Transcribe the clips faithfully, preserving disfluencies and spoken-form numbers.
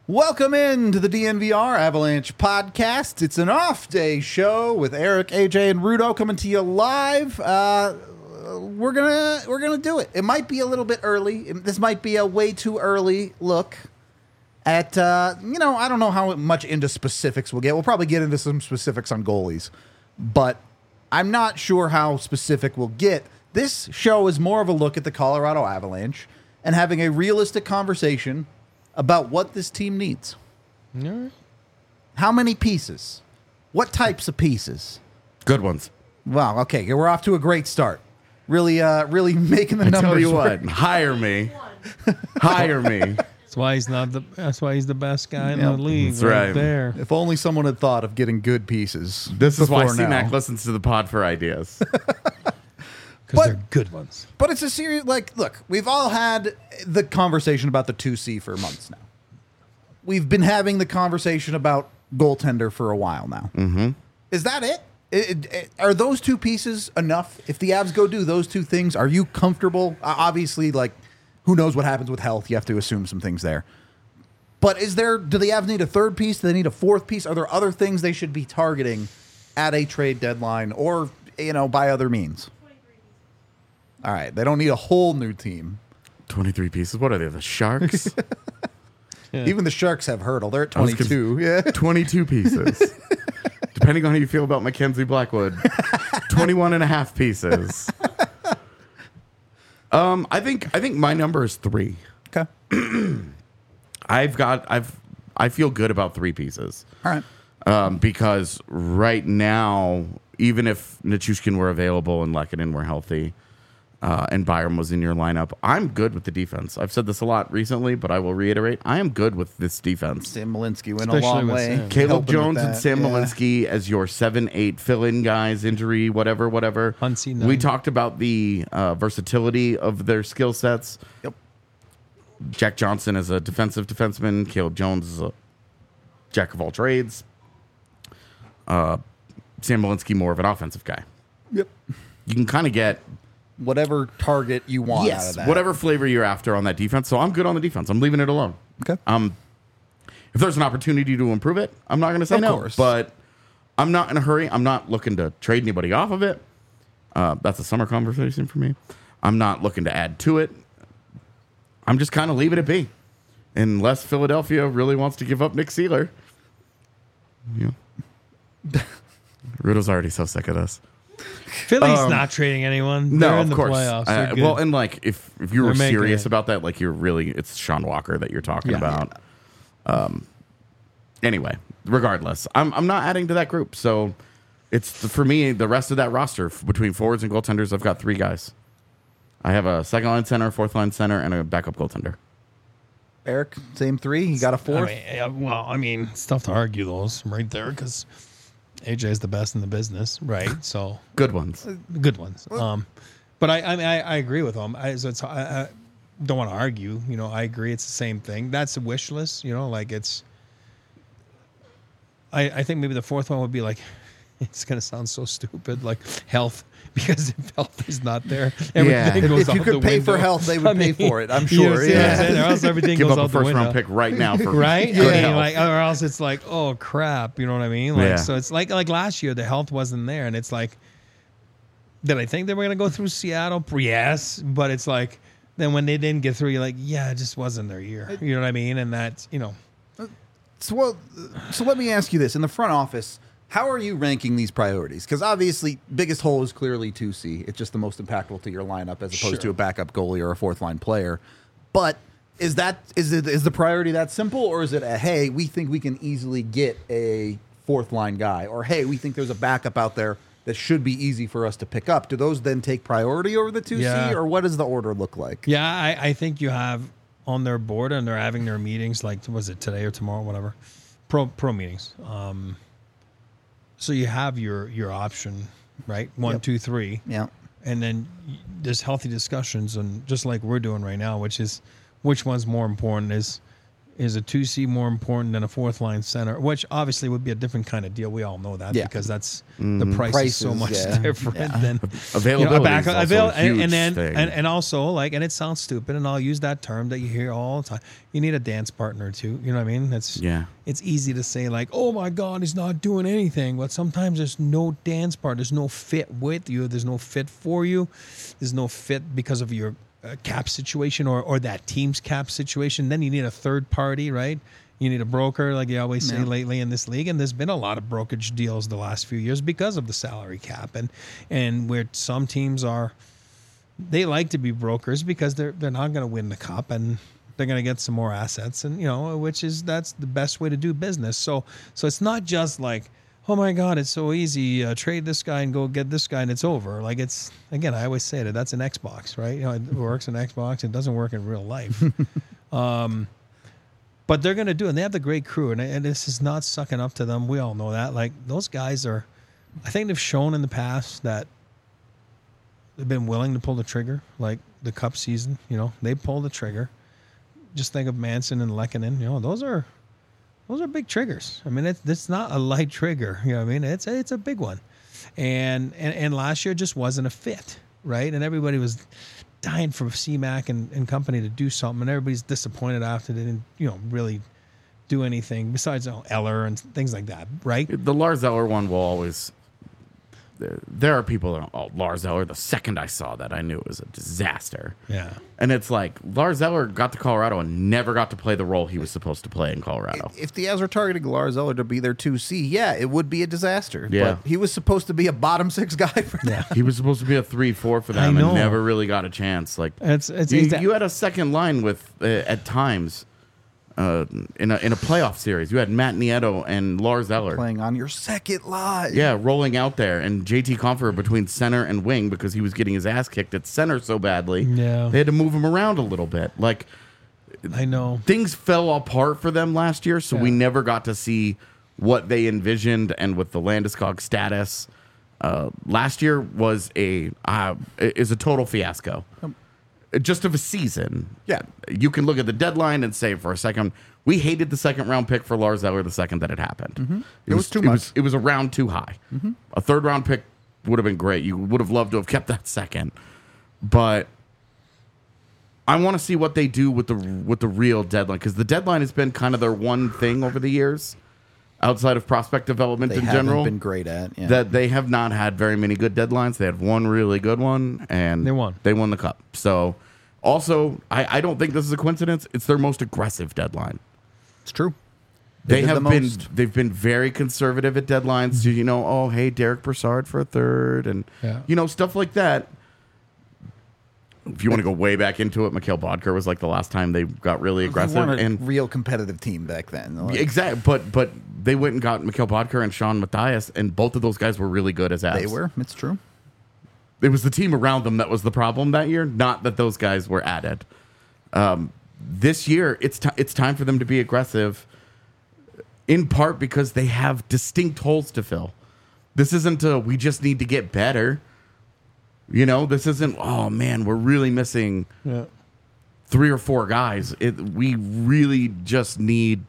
Welcome in to the D N V R Avalanche podcast. It's an off day show with Eric, A J, and Rudo coming to you live. Uh, we're gonna we're gonna do it. It might be a little bit early. This might be a way too early look at uh, you know I don't know how much into specifics we'll get. We'll probably get into some specifics on goalies, but I'm not sure how specific we'll get. This show is more of a look at the Colorado Avalanche and having a realistic conversation about what this team needs. All right. How many pieces? What types of pieces? Good ones. Wow, okay, we're off to a great start. Really, uh, really making the I numbers tell you work. what, hire me. Hire me. That's why he's not the. That's why he's the best guy in Yep. the league. That's right, right. there. If only someone had thought of getting good pieces. This is why before now. C-Mac listens to the pod for ideas. Because But- they're good ones. But it's a serious, like, look, we've all had the conversation about the two C for months now. We've been having the conversation about goaltender for a while now. Mm-hmm. Is that it? It- it- Are those two pieces enough? If the Avs go do those two things, are you comfortable? Uh, obviously, like, who knows what happens with health? You have to assume some things there. But is there, do the Avs need a third piece? Do they need a fourth piece? Are there other things they should be targeting at a trade deadline or, you know, by other means? All right, they don't need a whole new team. twenty-three pieces. What are they, the Sharks? Yeah. Even the Sharks have hurdle. They're at I was twenty-two. Yeah. twenty-two pieces. Depending on how you feel about Mackenzie Blackwood, twenty-one and a half pieces. Um, I think I think my number is three. Okay. I've got I've I feel good about three pieces. All right. Um, because right now, even if Nichushkin were available and Lehkonen were healthy, uh, and Byram was in your lineup, I'm good with the defense. I've said this a lot recently, but I will reiterate: I am good with this defense. Sam Malinsky went Especially a long with way. Sam. Caleb helping with Jones and that. Sam Yeah. Malinsky as your seven, eight fill-in guys, injury, whatever, whatever. Huntsy, We nine. talked about the uh, versatility of their skill sets. Yep. Jack Johnson is a defensive defenseman. Caleb Jones is a jack of all trades. Uh, Sam Malinsky more of an offensive guy. Yep. You can kind of get Whatever target you want out of that. whatever flavor you're after on that defense. So I'm good on the defense. I'm leaving it alone. Okay. Um, if there's an opportunity to improve it, I'm not going to say Of no. course. But I'm not in a hurry. I'm not looking to trade anybody off of it. Uh, that's a summer conversation for me. I'm not looking to add to it. I'm just kind of leaving it be, unless Philadelphia really wants to give up Nick Seeler. Yeah. Rudo's already so sick of this. Philly's Um, not trading anyone. No, They're in of the course. playoffs. Uh, They're good. well, and like if if you were They're making serious it. about that, like you're really, it's Sean Walker that you're talking Yeah. about. Um. Anyway, regardless, I'm I'm not adding to that group. So it's for me the rest of that roster f- between forwards and goaltenders. I've got three guys. I have a second line center, fourth line center, and a backup goaltender. Eric, same three. He got a I fourth. mean, yeah, well, I mean, it's tough to argue those right there because A J is the best in the business, right? So Good ones. good ones. Um, but I, I mean, I, I agree with them. I, so it's, I, I don't want to argue. You know, I agree. It's the same thing. That's a wish list. You know, like it's. I, I think maybe the fourth one would be like, it's gonna sound so stupid, like health, because if health is not there, everything Yeah. goes If out you could the pay window. for health, they would I pay mean, for it. I'm you know sure. see what I'm Yeah. saying? Or else everything Give goes up out a the first window. round pick right now for Right? good I mean, health. like, or else it's like, oh crap, you know what I mean? Like, Yeah. so it's like, like last year, the health wasn't there, and it's like, did I think they were gonna go through Seattle? Yes, but it's like, then when they didn't get through, you're like, yeah, it just wasn't their year. You know what I mean? And that's, you know, So, well, so let me ask you this: in the front office, how are you ranking these priorities? Because obviously, biggest hole is clearly two C. It's just the most impactful to your lineup as opposed Sure. to a backup goalie or a fourth line player. But is that is it is the priority that simple, or is it a hey, we think we can easily get a fourth line guy, or hey, we think there's a backup out there that should be easy for us to pick up? Do those then take priority over the two C, Yeah. or what does the order look like? yeah, I, I think you have on their board and they're having their meetings, like, was it today or tomorrow, whatever, pro pro meetings. Um, so you have your your option, right? One, Yep. two, three. Yeah. And then y- there's healthy discussions, and just like we're doing right now, which is which one's more important is is a two C more important than a fourth line center, which obviously would be a different kind of deal. We all know that Yeah. because that's the price is so Prices, much yeah. different Yeah. than Availability you know, a back, is also avail- a huge and, and then thing. and, and also like, and it sounds stupid, and I'll use that term that you hear all the time. You need a dance partner too. You know what I mean? That's Yeah. It's easy to say like, oh my God, he's not doing anything, but sometimes there's no dance part. There's no fit with you. There's no fit for you. There's no fit because of your uh, cap situation or or that team's cap situation. Then you need a third party, right? You need a broker, like you always say Yeah. lately in this league, and there's been a lot of brokerage deals the last few years because of the salary cap, and and where some teams are, they like to be brokers because they're they're not going to win the cup and they're going to get some more assets, and you know, which is that's the best way to do business. So so it's not just like, oh my God, it's so easy, uh, trade this guy and go get this guy and it's over. Like it's again, I always say that that's an Xbox, right? You know, it works in Xbox, it doesn't work in real life. um, But they're going to do it. And they have the great crew. And, and this is not sucking up to them. We all know that. Like, those guys are, I think they've shown in the past that they've been willing to pull the trigger. Like the Cup season, you know, they pull the trigger. Just think of Manson and Lehkonen. You know, those are, those are big triggers. I mean, it's, it's not a light trigger. You know what I mean? It's, it's a big one. And, and, and last year just wasn't a fit, right? And everybody was dying for C Mac and, and company to do something, and everybody's disappointed after they didn't, you know, really do anything besides you know, Eller and things like that, right? The Lars Eller one will always. There are people that, oh, Lars Eller, the second I saw that, I knew it was a disaster. Yeah. And it's like, Lars Eller got to Colorado and never got to play the role he was supposed to play in Colorado. If the Avs were targeting Lars Eller to be their two C, yeah, it would be a disaster. Yeah. But he was supposed to be a bottom six guy for them. Yeah. He was supposed to be a three four for them I know. and never really got a chance. Like It's, it's, you, it's you had a second line with, uh, at times, uh, in, a, in a playoff series, you had Matt Nieto and Lars Eller. Playing on your second line. Yeah, rolling out there, and J T Compher between center and wing because he was getting his ass kicked at center so badly. Yeah. They had to move him around a little bit. Like, I know. things fell apart for them last year, so we Yeah. never got to see what they envisioned. And with the Landeskog status, uh, last year was a uh, is a total fiasco. Just of a season. Yeah. You can look at the deadline and say for a second, we hated the second round pick for Lars Eller the second that it happened. Mm-hmm. It was too it much. Was, it was a round too high. Mm-hmm. A third round pick would have been great. You would have loved to have kept that second. But I want to see what they do with the with the real deadline, because the deadline has been kind of their one thing over the years, outside of prospect development They in haven't general. been great at. Yeah. That they have not had very many good deadlines. They had one really good one, and They won. They won the cup. So, also, I, I don't think this is a coincidence. It's their most aggressive deadline. It's true. They, did have the been most. they've been very conservative at deadlines. You know, oh hey, Derek Brassard for a third, and Yeah. you know stuff like that. If you want to go way back into it, Mikhail Bodker was like the last time they got really They aggressive, weren't a and real competitive team back then. Like, exactly. But but they went and got Mikhail Bodker and Sean Matthias, and both of those guys were really good as abs. they were. It's true. It was the team around them that was the problem that year, not that those guys were added. Um, this year, it's ti it's time for them to be aggressive, in part because they have distinct holes to fill. This isn't a we just need to get better. You know, this isn't, oh man, we're really missing Yeah. three or four guys. It, we really just need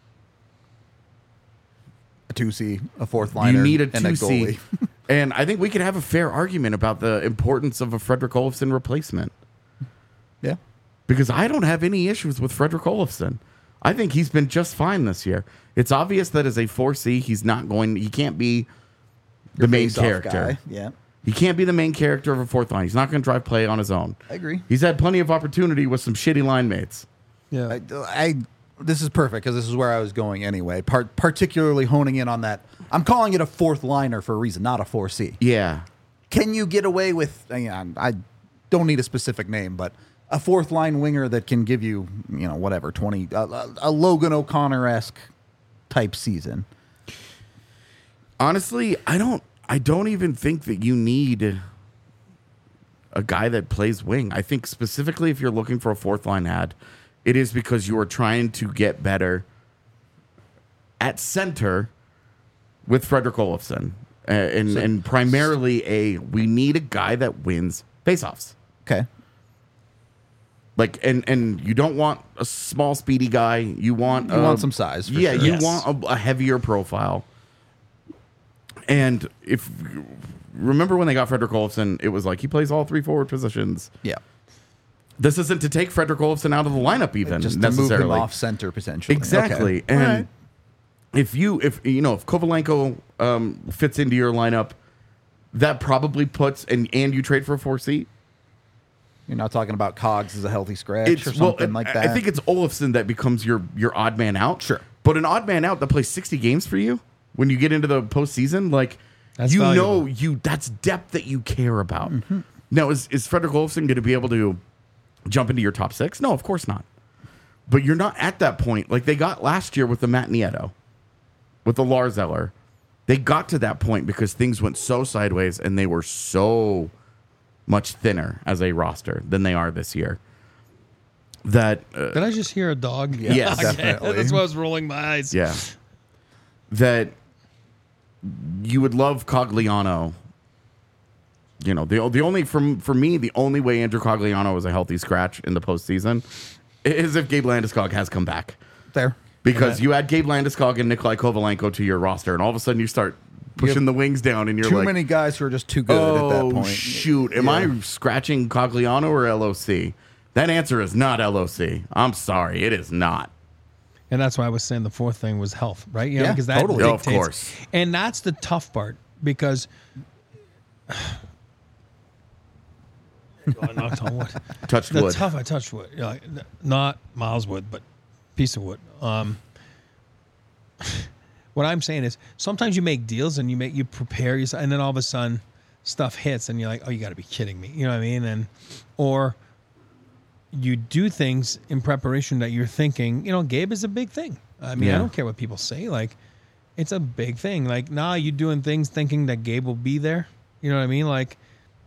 A two C, a fourth liner, you need a and a two C. goalie. And I think we could have a fair argument about the importance of a Frederick Olofsson replacement. Yeah. Because I don't have any issues with Frederick Olofsson. I think he's been just fine this year. It's obvious that as a four C, he's not going, he can't be the Your main face-off character. guy. Yeah. He can't be the main character of a fourth line. He's not going to drive play on his own. I agree. He's had plenty of opportunity with some shitty line mates. Yeah. I, I this is perfect because this is where I was going anyway. Part, particularly honing in on that. I'm calling it a fourth liner for a reason, not a four C. Yeah. Can you get away with? I, I don't need a specific name, but a fourth line winger that can give you, you know, whatever twenty, a, a Logan O'Connor esque type season. Honestly, I don't. I don't even think that you need a guy that plays wing. I think specifically if you're looking for a fourth line ad, it is because you are trying to get better at center with Frederick Olofsson. Uh, and, So- and primarily a we need a guy that wins faceoffs. Okay. Like, and and you don't want a small, speedy guy. You want You uh, want some size, for yeah, sure. you Yes. want a, a heavier profile. And if remember when they got Frederick Olofsson, it was like he plays all three forward positions. Yeah. This isn't to take Frederick Olofsson out of the lineup, even Just to move necessarily. him off center potentially. Exactly. Okay. And All right. if you if you know if Kovalenko um, fits into your lineup, that probably puts and and you trade for a four seat. You're not talking about Cogs as a healthy scratch It's or well, something like I- that. I think it's Olofsson that becomes your your odd man out. Sure. But an odd man out that plays sixty games for you when you get into the postseason, like That's you valuable. know you that's depth that you care about. Mm-hmm. Now is is Frederick Olofsson going to be able to jump into your top six? No, of course not. But you're not at that point like they got last year with the Matt Nieto, with the Lars Eller. They got to that point because things went so sideways and they were so much thinner as a roster than they are this year. That uh, Did I just hear a dog? Yeah, Yes. Okay, definitely. That's why I was rolling my eyes. yeah, that you would love Cogliano. You know, the the only from for me the only way Andrew Cogliano is a healthy scratch in the postseason is if Gabe Landeskog has come back. there. Because you add Gabe Landeskog and Nikolai Kovalenko to your roster, and all of a sudden you start pushing the wings down, and you're Too like, many guys who are just too good oh, at that point. shoot. Am Yeah. I scratching Cogliano or L O C? That answer is not L O C. I'm sorry. It is not. And that's why I was saying the fourth thing was health, right? You know, Yeah, because that totally. Oh, of dictates. course. And that's the tough part because I knocked on wood. Touched The wood. tough I touched wood. You know, like, n- not Miles wood, but piece of wood. Um, what I'm saying is sometimes you make deals and you make you prepare yourself, and then all of a sudden stuff hits, and you're like, oh, you got to be kidding me. You know what I mean? And or you do things in preparation that you're thinking, you know, Gabe is a big thing. I mean, Yeah. I don't care what people say. Like, it's a big thing. Like, now you doing things thinking that Gabe will be there. You know what I mean? Like,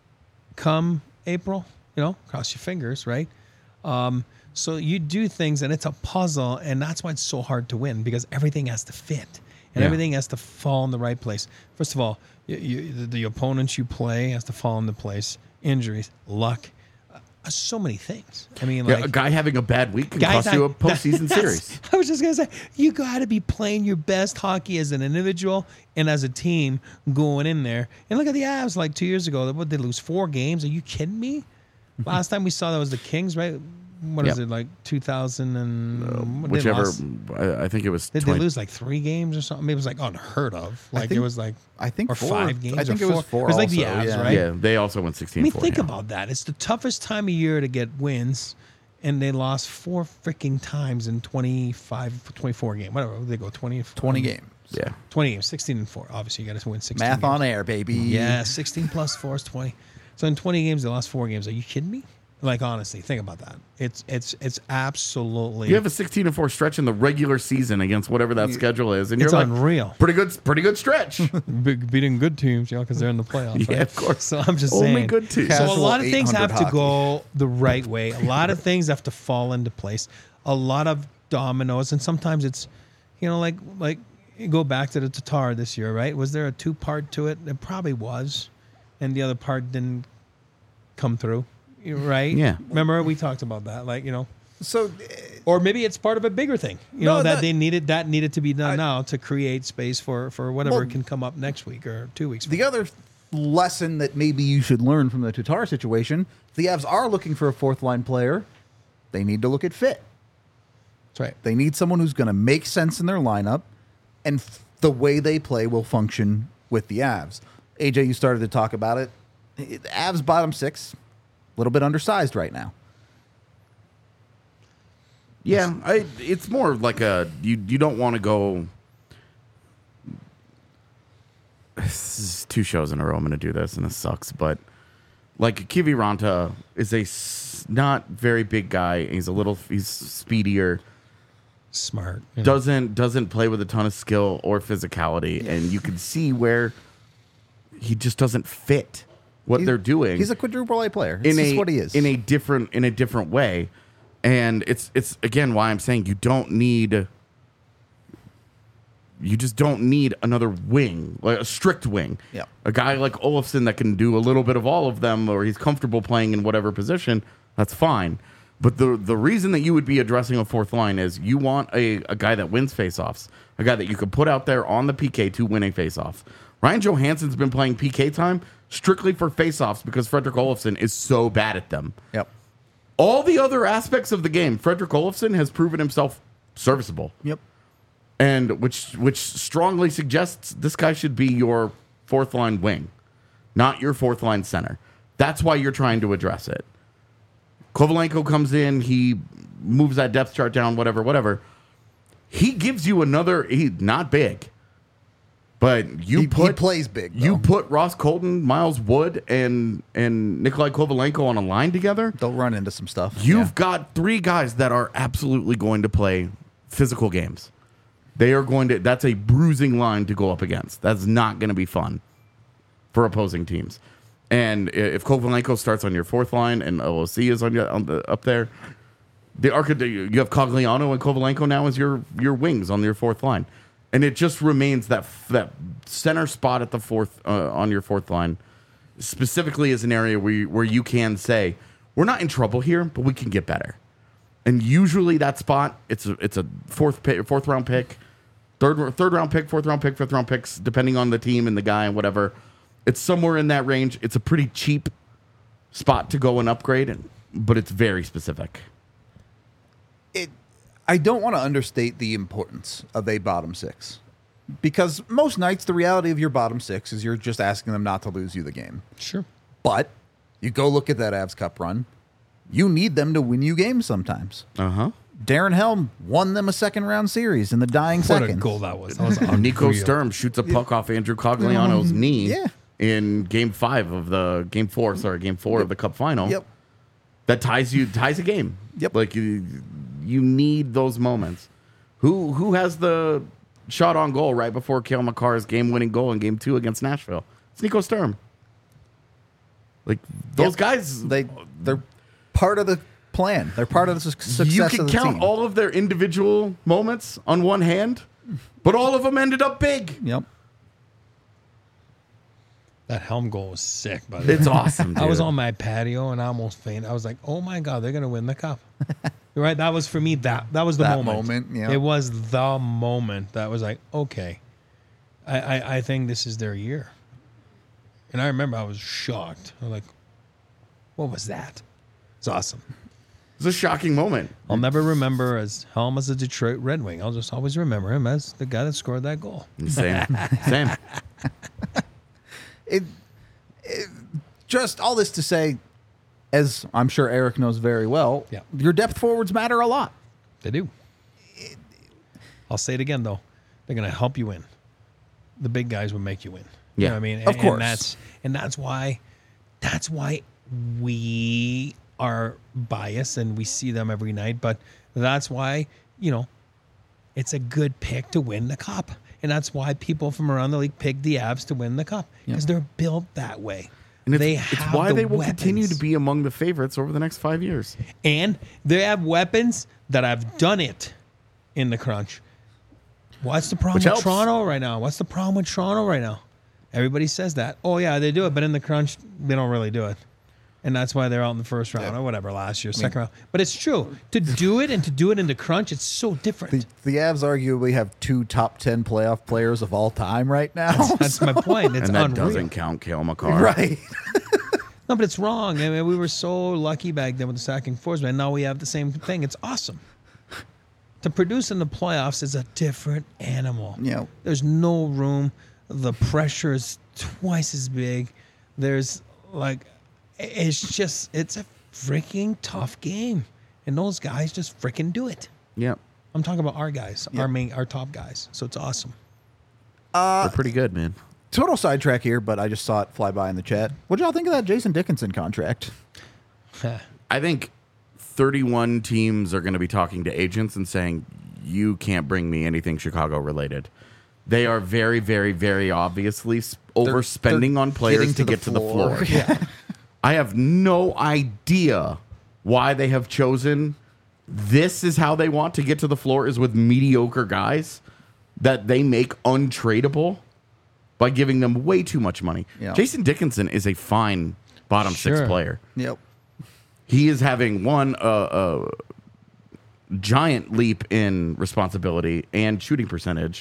come April, you know, cross your fingers, right? Um, so you do things, and it's a puzzle, and that's why it's so hard to win because everything has to fit and Yeah. everything has to fall in the right place. First of all, you, you, the, the opponents you play has to fall into place. Injuries, luck, uh, so many things. I mean, Yeah, like a guy having a bad week can guys, cost you a I- postseason that's- series. I was just gonna say you got to be playing your best hockey as an individual and as a team going in there. And look at the Avs like two years ago. What, they lose four games? Are you kidding me? Last time we saw that was the Kings, right? What is Yep. it like two thousand and what, they Whichever, lost- I, I think it was. Did they twenty lose like three games or something? It was like unheard of. Like it think- was like I think or four. five games. I think or it was four It was like the also, Avs, yeah. right? Yeah, they also went sixteen. I mean, four, think yeah. about that. It's the toughest time of year to get wins, and they lost four freaking times in twenty-five, twenty-four game. Whatever they go, twenty, twenty games. Yeah, twenty games, sixteen and four. Obviously, you got to win sixteen. Math games. on air, baby. Yeah, sixteen plus four is twenty. So in twenty games, they lost four games. Are you kidding me? Like honestly, think about that. It's it's it's absolutely. you have a sixteen and four stretch in the regular season against whatever that schedule is, and It's you're like, unreal. pretty good, pretty good stretch. Big, beating good teams, you know, because they're in the playoffs. Yeah, right? of course. So I'm just Only saying. good teams. So a Casual lot of things eight have hundred to go the right way. A lot of things have to fall into place. A lot of dominoes, and sometimes it's, you know, like like you go back to the Tatar this year, right? Was there a two part to it? It probably was, and the other part didn't come through, you know, right? Yeah. Remember we talked about that, like you know. So Or maybe it's part of a bigger thing, you No, know, that, that- they needed that needed to be done I- now to create space for for whatever Well, can come up next week or two weeks. From the other lesson that maybe you should learn from the Tatar situation, if the Avs are looking for a fourth line player, they need to look at fit. That's right. They need someone who's going to make sense in their lineup, and f- the way they play will function with the Avs. A J, you started to talk about it. The Avs bottom six, a little bit undersized right now. Yeah, I, it's more like a you. You don't want to go. This is two shows in a row. I'm going to do this, and this sucks. But like Kiviranta is a s- not very big guy. He's a little. He's speedier. Smart. you know. Doesn't doesn't play with a ton of skill or physicality, and you can see where he just doesn't fit what He's- they're doing. He's a quadruple A player. It's in just a what he is. in a different in a different way, and it's it's again why I'm saying you don't need you just don't need another wing, like a strict wing. Yeah. A guy like Olofsson that can do a little bit of all of them, or he's comfortable playing in whatever position. That's fine, But the the reason that you would be addressing a fourth line is you want a, a guy that wins faceoffs, a guy that you could put out there on the P K to win a faceoff. Ryan Johansson's been playing P K time strictly for faceoffs because Fredrik Olofsson is so bad at them. Yep. All the other aspects of the game, Fredrik Olofsson has proven himself serviceable. Yep. And which which strongly suggests this guy should be your fourth line wing, not your fourth line center. That's why you're trying to address it. Kovalenko comes in, he moves that depth chart down, whatever, whatever. He gives you another, he not big, but you He, put he plays big. you though. put Ross Colton, Miles Wood, and and Nikolai Kovalenko on a line together. They'll run into some stuff. You've Yeah. got three guys that are absolutely going to play physical games. They are going to, that's a bruising line to go up against. That's not going to be fun for opposing teams. And if Kovalenko starts on your fourth line and O O C is on, your, on the, up there, the arc, you have Cogliano and Kovalenko now as your, your wings on your fourth line. And it just remains that that center spot at the fourth uh, on your fourth line specifically is an area where you, where you can say, we're not in trouble here, but we can get better. And usually that spot, it's a, it's a fourth pick, fourth round pick, third third round pick, fourth round pick, fifth round picks, depending on the team and the guy and whatever. It's somewhere in that range. It's a pretty cheap spot to go and upgrade, and, but it's very specific. It. I don't want to understate the importance of a bottom six, because most nights the reality of your bottom six is you're just asking them not to lose you the game. Sure. But you go look at that Avs Cup run. You need them to win you games sometimes. Uh huh. Darren Helm won them a second round series in the dying What seconds. a goal that was. That was Nico unreal. Sturm shoots a puck off Andrew Cogliano's knee Yeah. in game five of the game four, sorry, game four of the Cup final. Yep. That ties you ties a game. Yep. Like you, you need those moments. Who who has the shot on goal right before Cale Makar's game winning goal in game two against Nashville? It's Nico Sturm. Like those Yep. guys, They they're part of the plan. They're part of the su- success you of can the count team. all of their individual moments on one hand, but all of them ended up big. Yep. That Helm goal was sick, by the way. It's awesome. Dude. I was on my patio and I almost fainted. I was like, "Oh my god, they're gonna win the cup!" You're right. That was for me. That that was the That moment. moment, yeah. It was the moment that was like, okay, I, I I think this is their year. And I remember I was shocked. I was like, "What was that?" It's awesome. It's a shocking moment. I'll never remember as Helm as a Detroit Red Wing. I'll just always remember him as the guy that scored that goal. Same, same. It, it just all this to say, as I'm sure Eric knows very well, Yeah. your depth forwards matter a lot. They do. I'll say it again though. They're gonna help you win. The big guys will make you win. You Yeah. know what I mean? Of And- course. And that's and that's why that's why we are biased and we see them every night. But that's why, you know, it's a good pick to win the cup. And that's why people from around the league pick the Avs to win the cup. Because they're built that way. And it's, they it's have why the they will weapons. continue to be among the favorites over the next five years. And they have weapons that have done it in the crunch. What's the problem Which with helps. Toronto right now? What's the problem with Toronto right now? Everybody says that. Oh, yeah, they do it, but in the crunch, they don't really do it. And that's why they're out in the first round or whatever last year, second round. But it's true. To do it and to do it in the crunch, it's so different. The, the Avs arguably have two top ten playoff players of all time right now. That's my point. It's and that unreal. doesn't count Cale Makar. right. No, but it's wrong. I mean, we were so lucky back then with the stacking fours, man. Now we have the same thing. It's awesome. To produce in the playoffs is a different animal. Yeah. There's no room. The pressure is twice as big. There's like, it's just, it's a freaking tough game. And those guys just freaking do it. Yep. I'm talking about our guys, our main, our top guys. So it's awesome. They're pretty good, man. Total sidetrack here, but I just saw it fly by in the chat. What y'all think of that Jason Dickinson contract? I think thirty-one teams are going to be talking to agents and saying, you can't bring me anything Chicago related. They are very, very, very obviously s- overspending they're on players getting to, to the get to the floor. floor. Yeah. I have no idea why they have chosen this is how they want to get to the floor is with mediocre guys that they make untradeable by giving them way too much money. Yeah. Jason Dickinson is a fine bottom Sure. six player. Yep. he is having one a uh, uh, giant leap in responsibility and shooting percentage,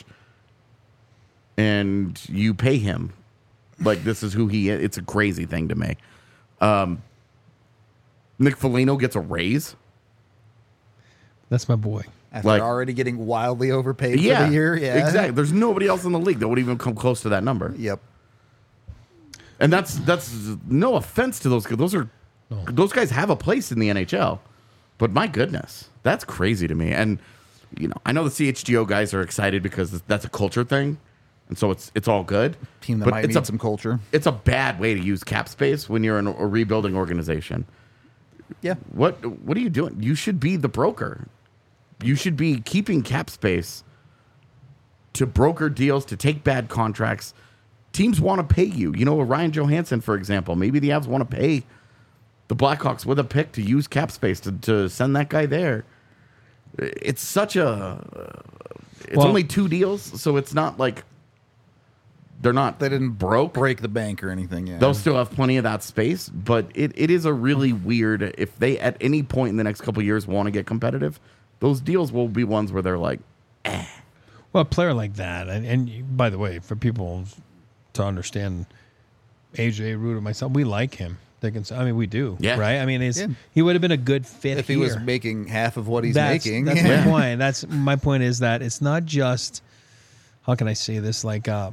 and you pay him like this is who he is. It's a crazy thing to me. Um, Nick Foligno gets a raise. That's my boy. After Like- already getting wildly overpaid Yeah, for the year. Yeah, exactly. There's nobody else in the league that would even come close to that number. Yep. And that's that's no offense to those guys. Those are those guys have a place in the N H L. But my goodness, that's crazy to me. And you know, I know the C H G O guys are excited because that's a culture thing, and so it's it's all good. Team that but might it's need a, some culture. It's a bad way to use cap space when you're in a, a rebuilding organization. Yeah. What what are you doing? You should be the broker. You should be keeping cap space to broker deals, to take bad contracts. Teams want to pay you. You know, Ryan Johansson, for example. Maybe the Avs want to pay the Blackhawks with a pick to use cap space to, to send that guy there. It's such a... It's Well- only two deals, so it's not like they're not... They didn't broke. break the bank or anything. Yeah. They'll still have plenty of that space, but it, it is a really weird... If they, at any point in the next couple of years, want to get competitive, those deals will be ones where they're like, Well, a player like that, and, and by the way, for people to understand, A J, Rude, and myself, we like him. They can, I mean, we do, Yeah. right? I mean, he's, Yeah. he would have been a good fit if he here. was making half of what he's that's, making. That's yeah. my point. That's my point is that it's not just, how can I say this? Like, uh,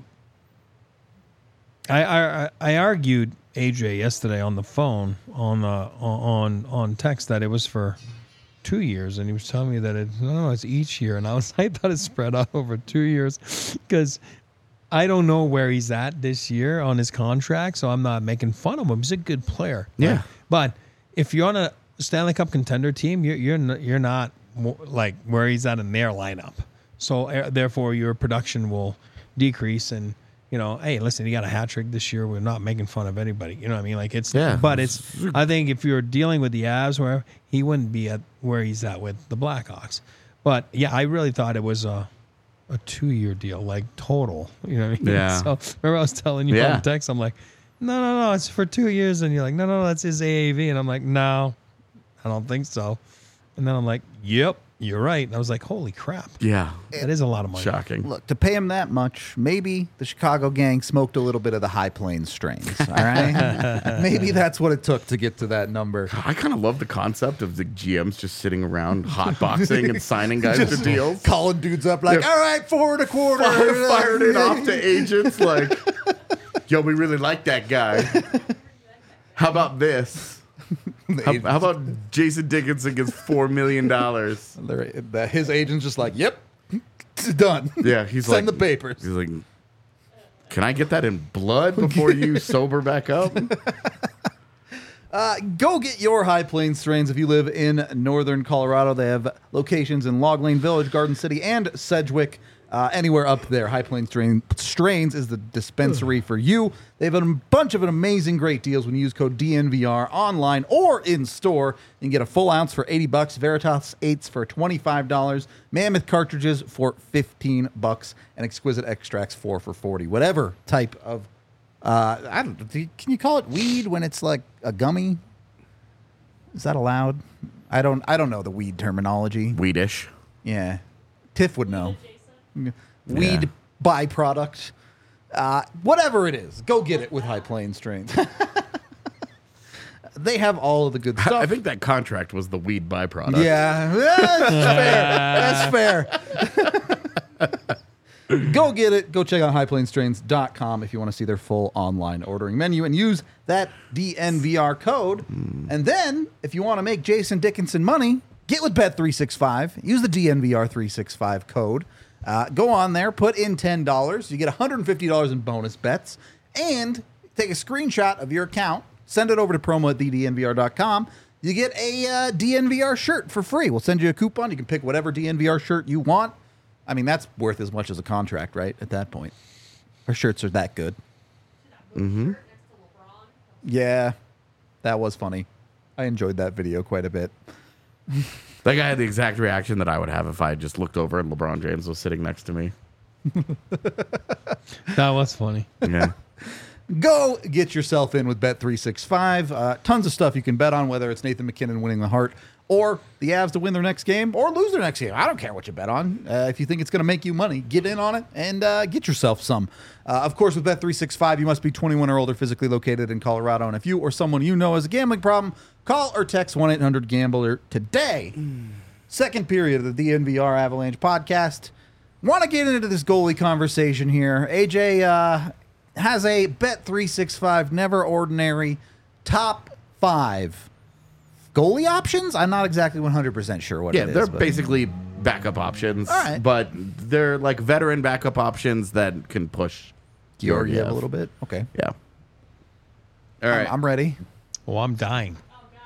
I, I I argued A J yesterday on the phone on uh, on on text that it was for two years, and he was telling me that it no, no it's each year, and I was I thought it spread out over two years because I don't know where he's at this year on his contract, so I'm not making fun of him. He's a good player, Yeah. right? But if you're on a Stanley Cup contender team, you're you're n- you're not mo- like where he's at in their lineup, so uh, therefore your production will decrease and. You know, hey, listen, you got a hat trick this year. We're not making fun of anybody. You know what I mean? Like it's, Yeah. but it's. I think if you're dealing with the Avs, where he wouldn't be at where he's at with the Blackhawks. But yeah, I really thought it was a, a two year deal, like total. You know what I mean? Yeah. So remember I was telling you Yeah. on text, I'm like, no, no, no, it's for two years, and you're like, no, no, no, that's his A A V, and I'm like, no, I don't think so. And then I'm like, yep, you're right. And I was like, holy crap, yeah, that is a lot of money. shocking. Look, to pay him that much, maybe the Chicago gang smoked a little bit of the High Plains strains. All right, maybe that's what it took to get to that number. I kind of love the concept of the G Ms just sitting around hotboxing and signing guys to deals. Calling dudes up like, Yeah. all right, four and a quarter. Fire, fired it off to agents like, yo, we really like that guy. How about this? How, how about Jason Dickinson gets four million dollars? They're- His agent's just like, yep, it's done. Yeah, he's Send like the papers. He's like, can I get that in blood before you sober back up? Uh, go get your High Plains strains if you live in northern Colorado. They have locations in Log Lane Village, Garden City, and Sedgwick. Uh, anywhere up there, High Plains strain, Strains is the dispensary for you. They have a bunch of amazing great deals when you use code D N V R online or in store. You can get a full ounce for eighty bucks, Veritas eights for twenty-five dollars, Mammoth cartridges for fifteen bucks, and Exquisite Extracts four for forty. Whatever type of Uh, I don't. do you- Can you call it weed when it's like a gummy? Is that allowed? I don't. I don't know the weed terminology. Weedish. Yeah, Tiff would know. Weed byproduct. Uh, whatever it is, go get it with High Plains strains. They have all of the good stuff. I think that contract was the weed byproduct. Yeah, that's fair. That's fair. Go get it. Go check out high plains strains dot com if you want to see their full online ordering menu and use that D N V R code. Mm. And then, if you want to make Jason Dickinson money, get with Bet three sixty-five. Use the D N V R three sixty-five code. Uh, go on there, put in ten dollars. You get one hundred fifty dollars in bonus bets. And take a screenshot of your account. Send it over to promo at the D N V R dot com. You get a uh, D N V R shirt for free. We'll send you a coupon. You can pick whatever D N V R shirt you want. I mean, that's worth as much as a contract, right? At that point. Our shirts are that good. Mm-hmm. Yeah, that was funny. I enjoyed that video quite a bit. That guy had the exact reaction that I would have if I just looked over and LeBron James was sitting next to me. That was funny. Yeah. Go get yourself in with Bet three sixty-five. Uh, tons of stuff you can bet on, whether it's Nathan McKinnon winning the Hart or the Avs to win their next game or lose their next game. I don't care what you bet on. Uh, if you think it's going to make you money, get in on it and uh, get yourself some. Uh, of course, with Bet three sixty-five, you must be twenty-one or older, physically located in Colorado. And if you or someone you know has a gambling problem, call or text one eight hundred gambler today. Mm. Second period of the D N V R Avalanche podcast. Want to get into this goalie conversation here. A J uh, has a Bet three sixty-five never ordinary top five goalie options. I'm not exactly one hundred percent sure what yeah, it is. they're but basically backup options, All right. but they're like veteran backup options that can push Georgiev a little bit. Okay. Yeah. All right. I'm, I'm ready. Oh, I'm dying.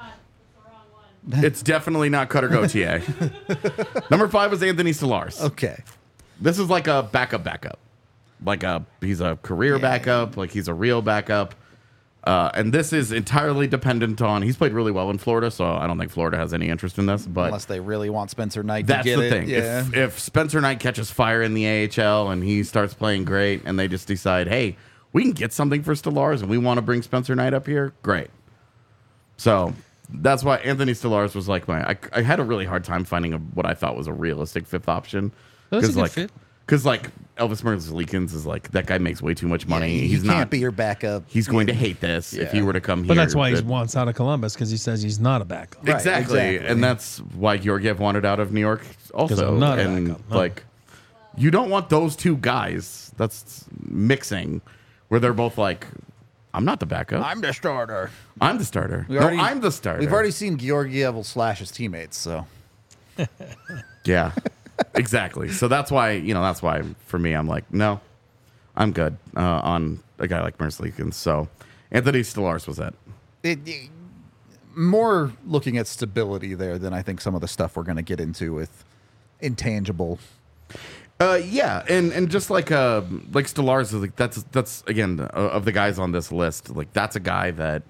It's definitely not Cutter Gauthier. Number five was Anthony Stolarz. Okay. This is like a backup backup. Like a he's a career Yeah. backup, like he's a real backup. Uh, and this is entirely dependent on he's played really well in Florida, so I don't think Florida has any interest in this, but Unless they really want Spencer Knight that's to get the it. thing. Yeah. If, if Spencer Knight catches fire in the A H L and he starts playing great and they just decide, hey, we can get something for Stolarz and we want to bring Spencer Knight up here, great. So that's why Anthony Stolarz was like my. I, I had a really hard time finding a, what I thought was a realistic fifth option. That's a good like, fit. Because like Elvis Merzlikins is like that guy makes way too much money. Yeah, he he's can't not. be your backup. He's going to hate this if he Yeah. were to come here. But that's why he But- wants out of Columbus, because he says he's not a backup. Right, exactly. exactly. And that's why Georgiev wanted out of New York also. I'm not a and backup, no. like, you don't want those two guys. That's mixing, where they're both like, I'm not the backup. I'm the starter. I'm the starter. We no, already- I'm the starter. We've already seen Georgiev will slash his teammates, so. Yeah, exactly. So that's why, you know, that's why for me, I'm like, no, I'm good uh, on a guy like Merzlikins. So Anthony Stolarz was it. It, it- more looking at stability there than I think some of the stuff we're going to get into with intangible. Uh, yeah, and and just like uh like Stolarz is like that's that's again uh, of the guys on this list, like that's a guy that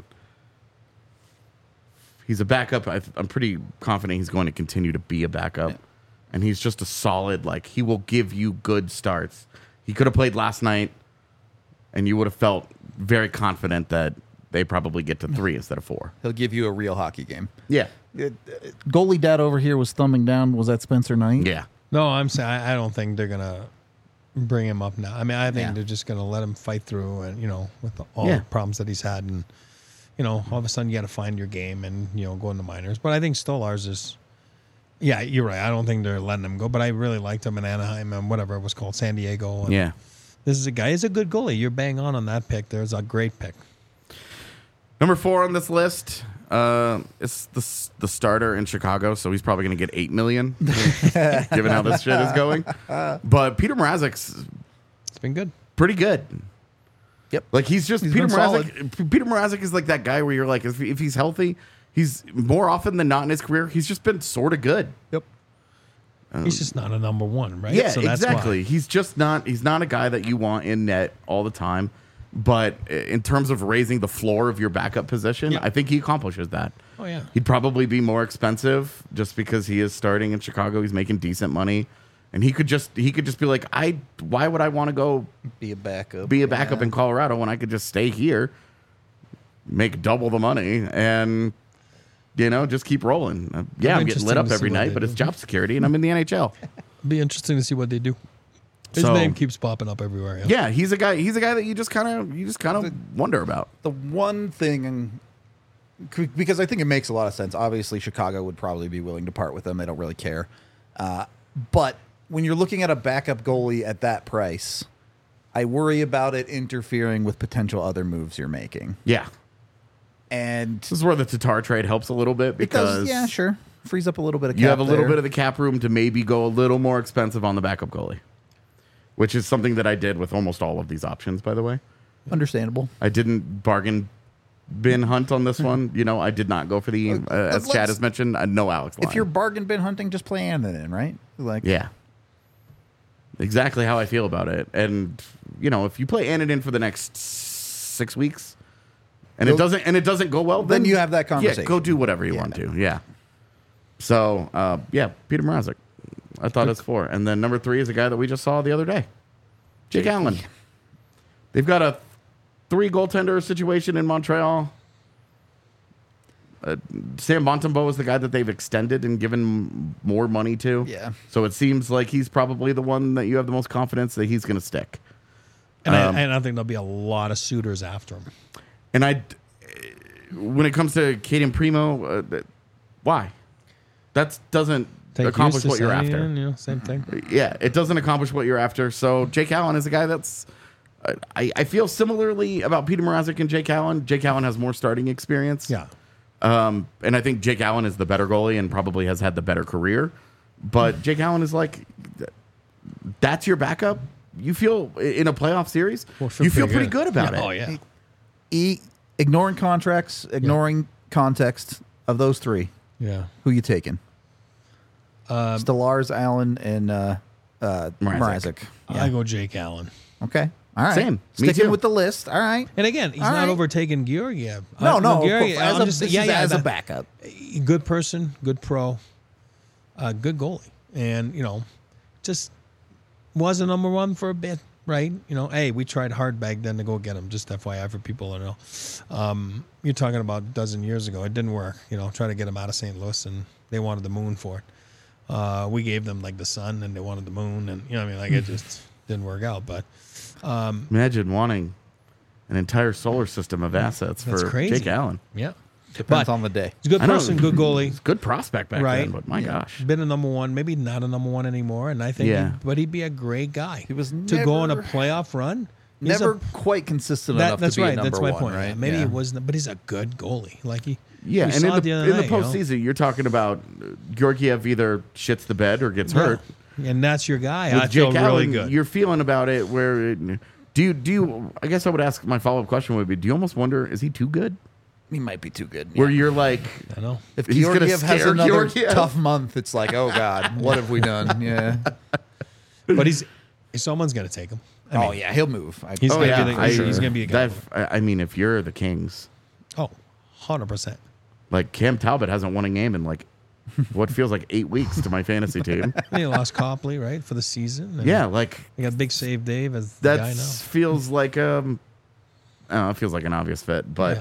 he's a backup. I, I'm pretty confident he's going to continue to be a backup, Yeah. and he's just a solid. Like he will give you good starts. He could have played last night, and you would have felt very confident that they probably get to three instead of four. He'll give you a real hockey game. Yeah, It, it- goalie dad over here was thumbing down. Was that Spencer Knight? yeah. No, I'm saying I I don't think they're gonna bring him up now. I mean, I think Yeah. they're just gonna let him fight through, and you know, with the, all Yeah. the problems that he's had, and you know, all of a sudden you got to find your game and you know go in the minors. But I think Stolarz is, yeah, you're right. I don't think they're letting him go, but I really liked him in Anaheim and whatever it was called, San Diego. And Yeah. this is a guy. He's a good goalie. You're bang on on that pick. There's a great pick. Number four on this list, uh, it's the the starter in Chicago, so he's probably going to get eight million, given how this shit is going. But Peter Mrazek's It's been good. pretty good. Yep. Like he's just He's Peter been Mrazek. Peter Mrazek is like that guy where you're like, if, if he's healthy, he's more often than not in his career, he's just been sort of good. Yep. He's just not a number one, right? Yeah, so that's exactly. Why. He's just not. He's not a guy that you want in net all the time. But in terms of raising the floor of your backup position, Yeah. I think he accomplishes that. Oh yeah. He'd probably be more expensive just because he is starting in Chicago. He's making decent money, and he could just he could just be like, I. Why would I want to go Be a backup. be a backup Yeah. in Colorado when I could just stay here, make double the money, and you know just keep rolling? Uh, yeah, I'm getting lit interesting up to see every what night, they but do. it's job security, and I'm in the N H L. Be interesting to see what they do. His So- name keeps popping up everywhere. Yeah, he's a guy. He's a guy that you just kind of you just kind of wonder about. The one thing, and because I think it makes a lot of sense. Obviously, Chicago would probably be willing to part with them. They don't really care. Uh, but when you're looking at a backup goalie at that price, I worry about it interfering with potential other moves you're making. Yeah, And this is where the Tatar trade helps a little bit it does, because yeah, sure, frees up a little bit of cap you have a little there. bit of the cap room to maybe go a little more expensive on the backup goalie, which is something that I did with almost all of these options. By the way, Understandable. I didn't bargain bin hunt on this one. You know, I did not go for the uh, as let's- Chad has mentioned. Uh, no Alex Lyon. If you're bargain bin hunting, just play Anthony in, right? Like, yeah, exactly how I feel about it. And you know, if you play Anadin for the next six weeks, and it You'll- doesn't and it doesn't go well, Then then you have that Yeah, conversation. go do whatever you Yeah. want to. Yeah. So uh, yeah, Peter Mrazek. I thought it's four, and then number three is a guy that we just saw the other day, Jake Allen. They've got a three goaltender situation in Montreal. Uh, Sam Montembeault is the guy that they've extended and given more money to. Yeah. So it seems like he's probably the one that you have the most confidence that he's going to stick. And Um, I, I don't think there'll be a lot of suitors after him. And I, when it comes to Caden Primo, uh, th- why? That doesn't Take accomplish Eustace what you're out, after. You know, same thing. Yeah, it doesn't accomplish what you're after. So Jake Allen is a guy that's. I, I feel similarly about Peter Mrazek and Jake Allen. Jake Allen has more starting experience. Yeah. Um, and I think Jake Allen is the better goalie and probably has had the better career. But Jake Allen is like, that's your backup. You feel in a playoff series, Well, feel you feel pretty pretty good. good, about Yeah, it. oh, yeah. E, ignoring contracts, ignoring context of those three, Yeah. who you taking? Um, Stellars, Allen, and uh, uh, Mrazek. Mrazek. I go Jake Allen. Okay. All right. Same. Me Sticking too. with the list. All right. And again, he's All not right. overtaking Georgiev. No, Uh, no. of Georgiev, course, as I'm a, just- this yeah, is yeah, as a that- backup. good person, good pro, uh, good goalie, and you know, just was a number one for a bit, right? You know, hey, we tried hard back then to go get him. Just F Y I for people to know. Um, you're talking about a dozen years ago. It didn't work. You know, try to get him out of Saint Louis, and they wanted the moon for it. Uh, we gave them like the sun, and they wanted the moon, and you know, what I mean, like it just didn't work out. But Imagine wanting an entire solar system of assets That's for crazy. Jake Allen. yeah, Depends But- on the day. he's a good I know. person, good goalie. He's a good prospect back Right. then, but my gosh. Been a number one, maybe not a number one anymore, and I think, Yeah. he, but he'd be a great guy. He was to go on a never- playoff run. he's Never a, quite consistent that, enough that's to be right. a number That's my one, point. right? Maybe Yeah. it wasn't, but he's a good goalie. Like he, Yeah, we and saw in it the, other in the night, you know? postseason, you're talking about uh, Georgiev either shits the bed or gets Yeah. hurt. and that's your guy. With I feel Jake really Allen, good. You're feeling about it where it, do you do you I guess I would ask my follow up question would be, do you almost wonder, is he too good? He might be too good. Where you're like, I know. If He's gonna Georgiev has scare another Georgiev. tough month, it's like, oh God, what have we done? Yeah. But he's someone's gonna take him. I oh mean, yeah, he'll move. I, He's oh gonna yeah, be the- I- he's gonna be a guy. that- I I mean, if you're the Kings, Oh, one hundred percent. like Cam Talbot hasn't won a game in like what feels like eight weeks to my fantasy team. They lost Copley, right, for the season. And Yeah, like They got Big Save Dave as the that guy now. feels like um, I don't know, it feels like an obvious fit, but Yeah.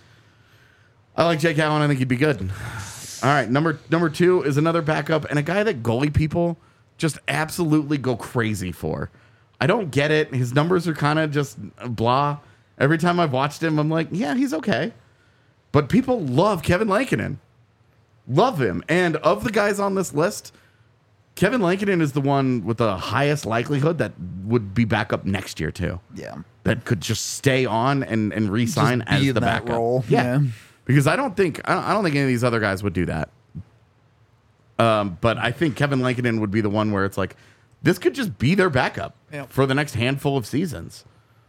I like Jake Allen. I think he'd be good. All right, number number two is another backup and a guy that goalie people just absolutely go crazy for. I don't get it. His numbers are kind of just blah. Every time I've watched him, I'm like, yeah, he's okay. But people love Kevin Lankinen. Love him. And of the guys on this list, Kevin Lankinen is the one with the highest likelihood that would be back up next year too. yeah. That could just stay on and, and re-sign Just be as in the that backup. role. Yeah. Yeah. Because I don't think I don't, I don't think any of these other guys would do that. Um, but I think Kevin Lankinen would be the one where it's like, this could just be their backup Yep. for the next handful of seasons.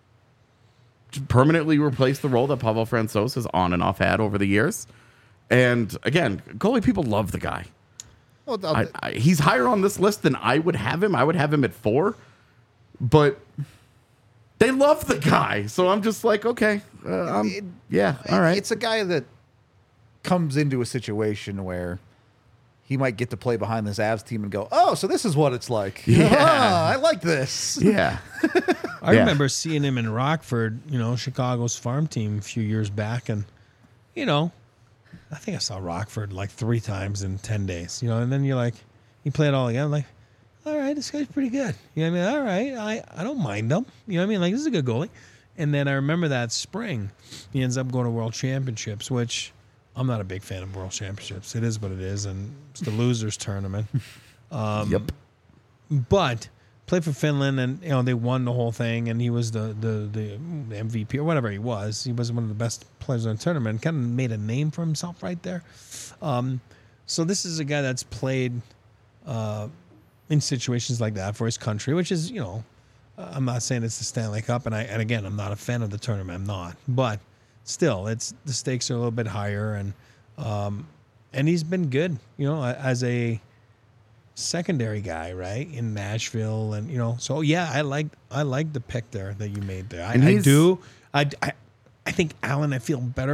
Just permanently replace the role that Pavel Francouz has on and off had over the years. And again, goalie people love the guy. Well, I, I, he's higher on this list than I would have him. I would have him at four, but they love the guy. So I'm just like, okay, uh, um, It- yeah, all right. It's a guy that comes into a situation where he might get to play behind this Avs team and go, oh, so this is what it's like. Yeah. Ah, I like this. yeah, I Yeah. remember seeing him in Rockford, you know, Chicago's farm team a few years back, and you know, I think I saw Rockford like three times in ten days. You know, and then you're like, you play it all again, I'm like, all right, this guy's pretty good. You know what I mean? All right, I, I don't mind him. You know what I mean? Like, this is a good goalie. And then I remember that spring, he ends up going to World Championships, which I'm not a big fan of World Championships. It is what it is, and it's the losers tournament. Um, yep. But played for Finland, and you know they won the whole thing, and he was the the, the M V P or whatever he was. He was one of the best players in the tournament. Kind of made a name for himself right there. Um, so this is a guy that's played uh, in situations like that for his country, which is, you know, I'm not saying it's the Stanley Cup, and I and again I'm not a fan of the tournament. I'm not, but still, it's the stakes are a little bit higher, and um, and he's been good, you know, as a secondary guy, right, in Nashville, and you know, so yeah, I like I like the pick there that you made there. I, And I he's- do. I, I I think Allen, I feel better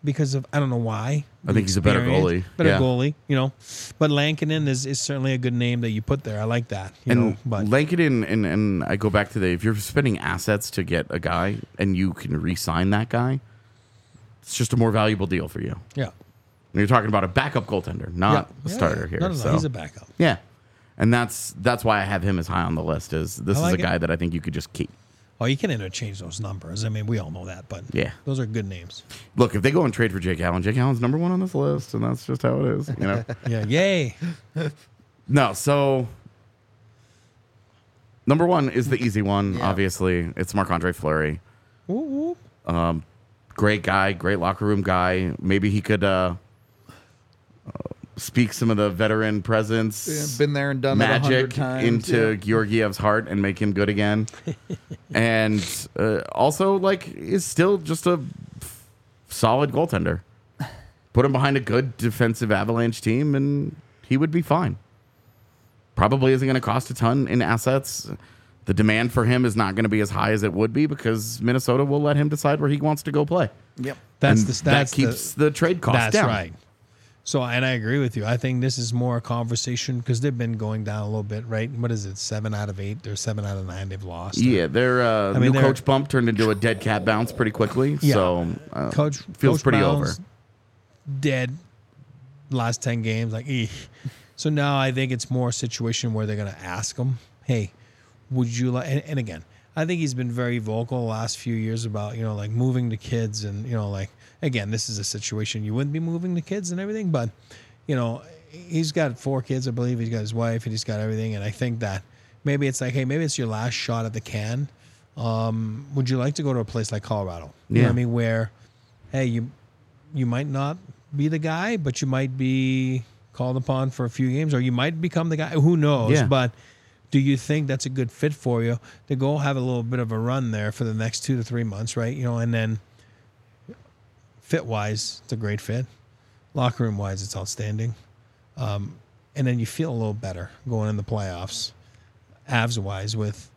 because of I don't know why. I think he's a better goalie. Better Yeah. goalie, you know. But Lankinen is, is certainly a good name that you put there. I like that. You And know, but Lankinen, and, and I go back to the, if you're spending assets to get a guy and you can re-sign that guy, it's just a more valuable deal for you. yeah. And you're talking about a backup goaltender, not yeah. a starter yeah. here. No, no, no. So, He's a backup. yeah. And that's that's why I have him as high on the list. Is this I is like a it. guy that I think you could just keep. Oh, you can interchange those numbers. I mean, we all know that, but Yeah. those are good names. Look, if they go and trade for Jake Allen, Jake Allen's number one on this list, and that's just how it is. You know. Yeah, yay. No, so number one is the easy one. Yeah. Obviously, it's Marc-Andre Fleury. Woo, woo. Great guy, great locker room guy. Maybe he could uh, uh, speak some of the veteran presence, Yeah, been there and done that a magic hundred times. into Yeah. Georgiev's heart and make him good again. And uh, also, like, is still just a f- solid goaltender. Put him behind a good defensive Avalanche team, and he would be fine. Probably isn't going to cost a ton in assets. The demand for him is not going to be as high as it would be because Minnesota will let him decide where he wants to go play. Yep. That's And the that's that keeps the, the, trade cost That's down. right. So, and I agree with you. I think this is more a conversation because they've been going down a little bit, right? What is it? Seven out of eight or seven out of nine they've lost. Yeah, their uh, I mean, new they're- coach bump turned into a dead cat bounce pretty quickly. Yeah. So uh, Coach feels Coach pretty Brown's over. Dead. Last ten games, like, eeh. So now I think it's more a situation where they're going to ask him, "Hey, would you like?" And, and again, I think he's been very vocal the last few years about you know like moving the kids and you know like again, this is a situation you wouldn't be moving the kids and everything, but you know he's got four kids, I believe. He's got his wife and he's got everything, and I think that maybe it's like, hey, maybe it's your last shot at the can. Um, would you like to go to a place like Colorado? You know Yeah. what I mean? Where, hey, you you might not be the guy, but you might be called upon for a few games, or you might become the guy. Who knows? Yeah. But do you think that's a good fit for you to go have a little bit of a run there for the next two to three months, right? You know, and then fit wise, it's a great fit. Locker room wise, it's outstanding. Um, and then you feel a little better going in the playoffs, Avs wise with,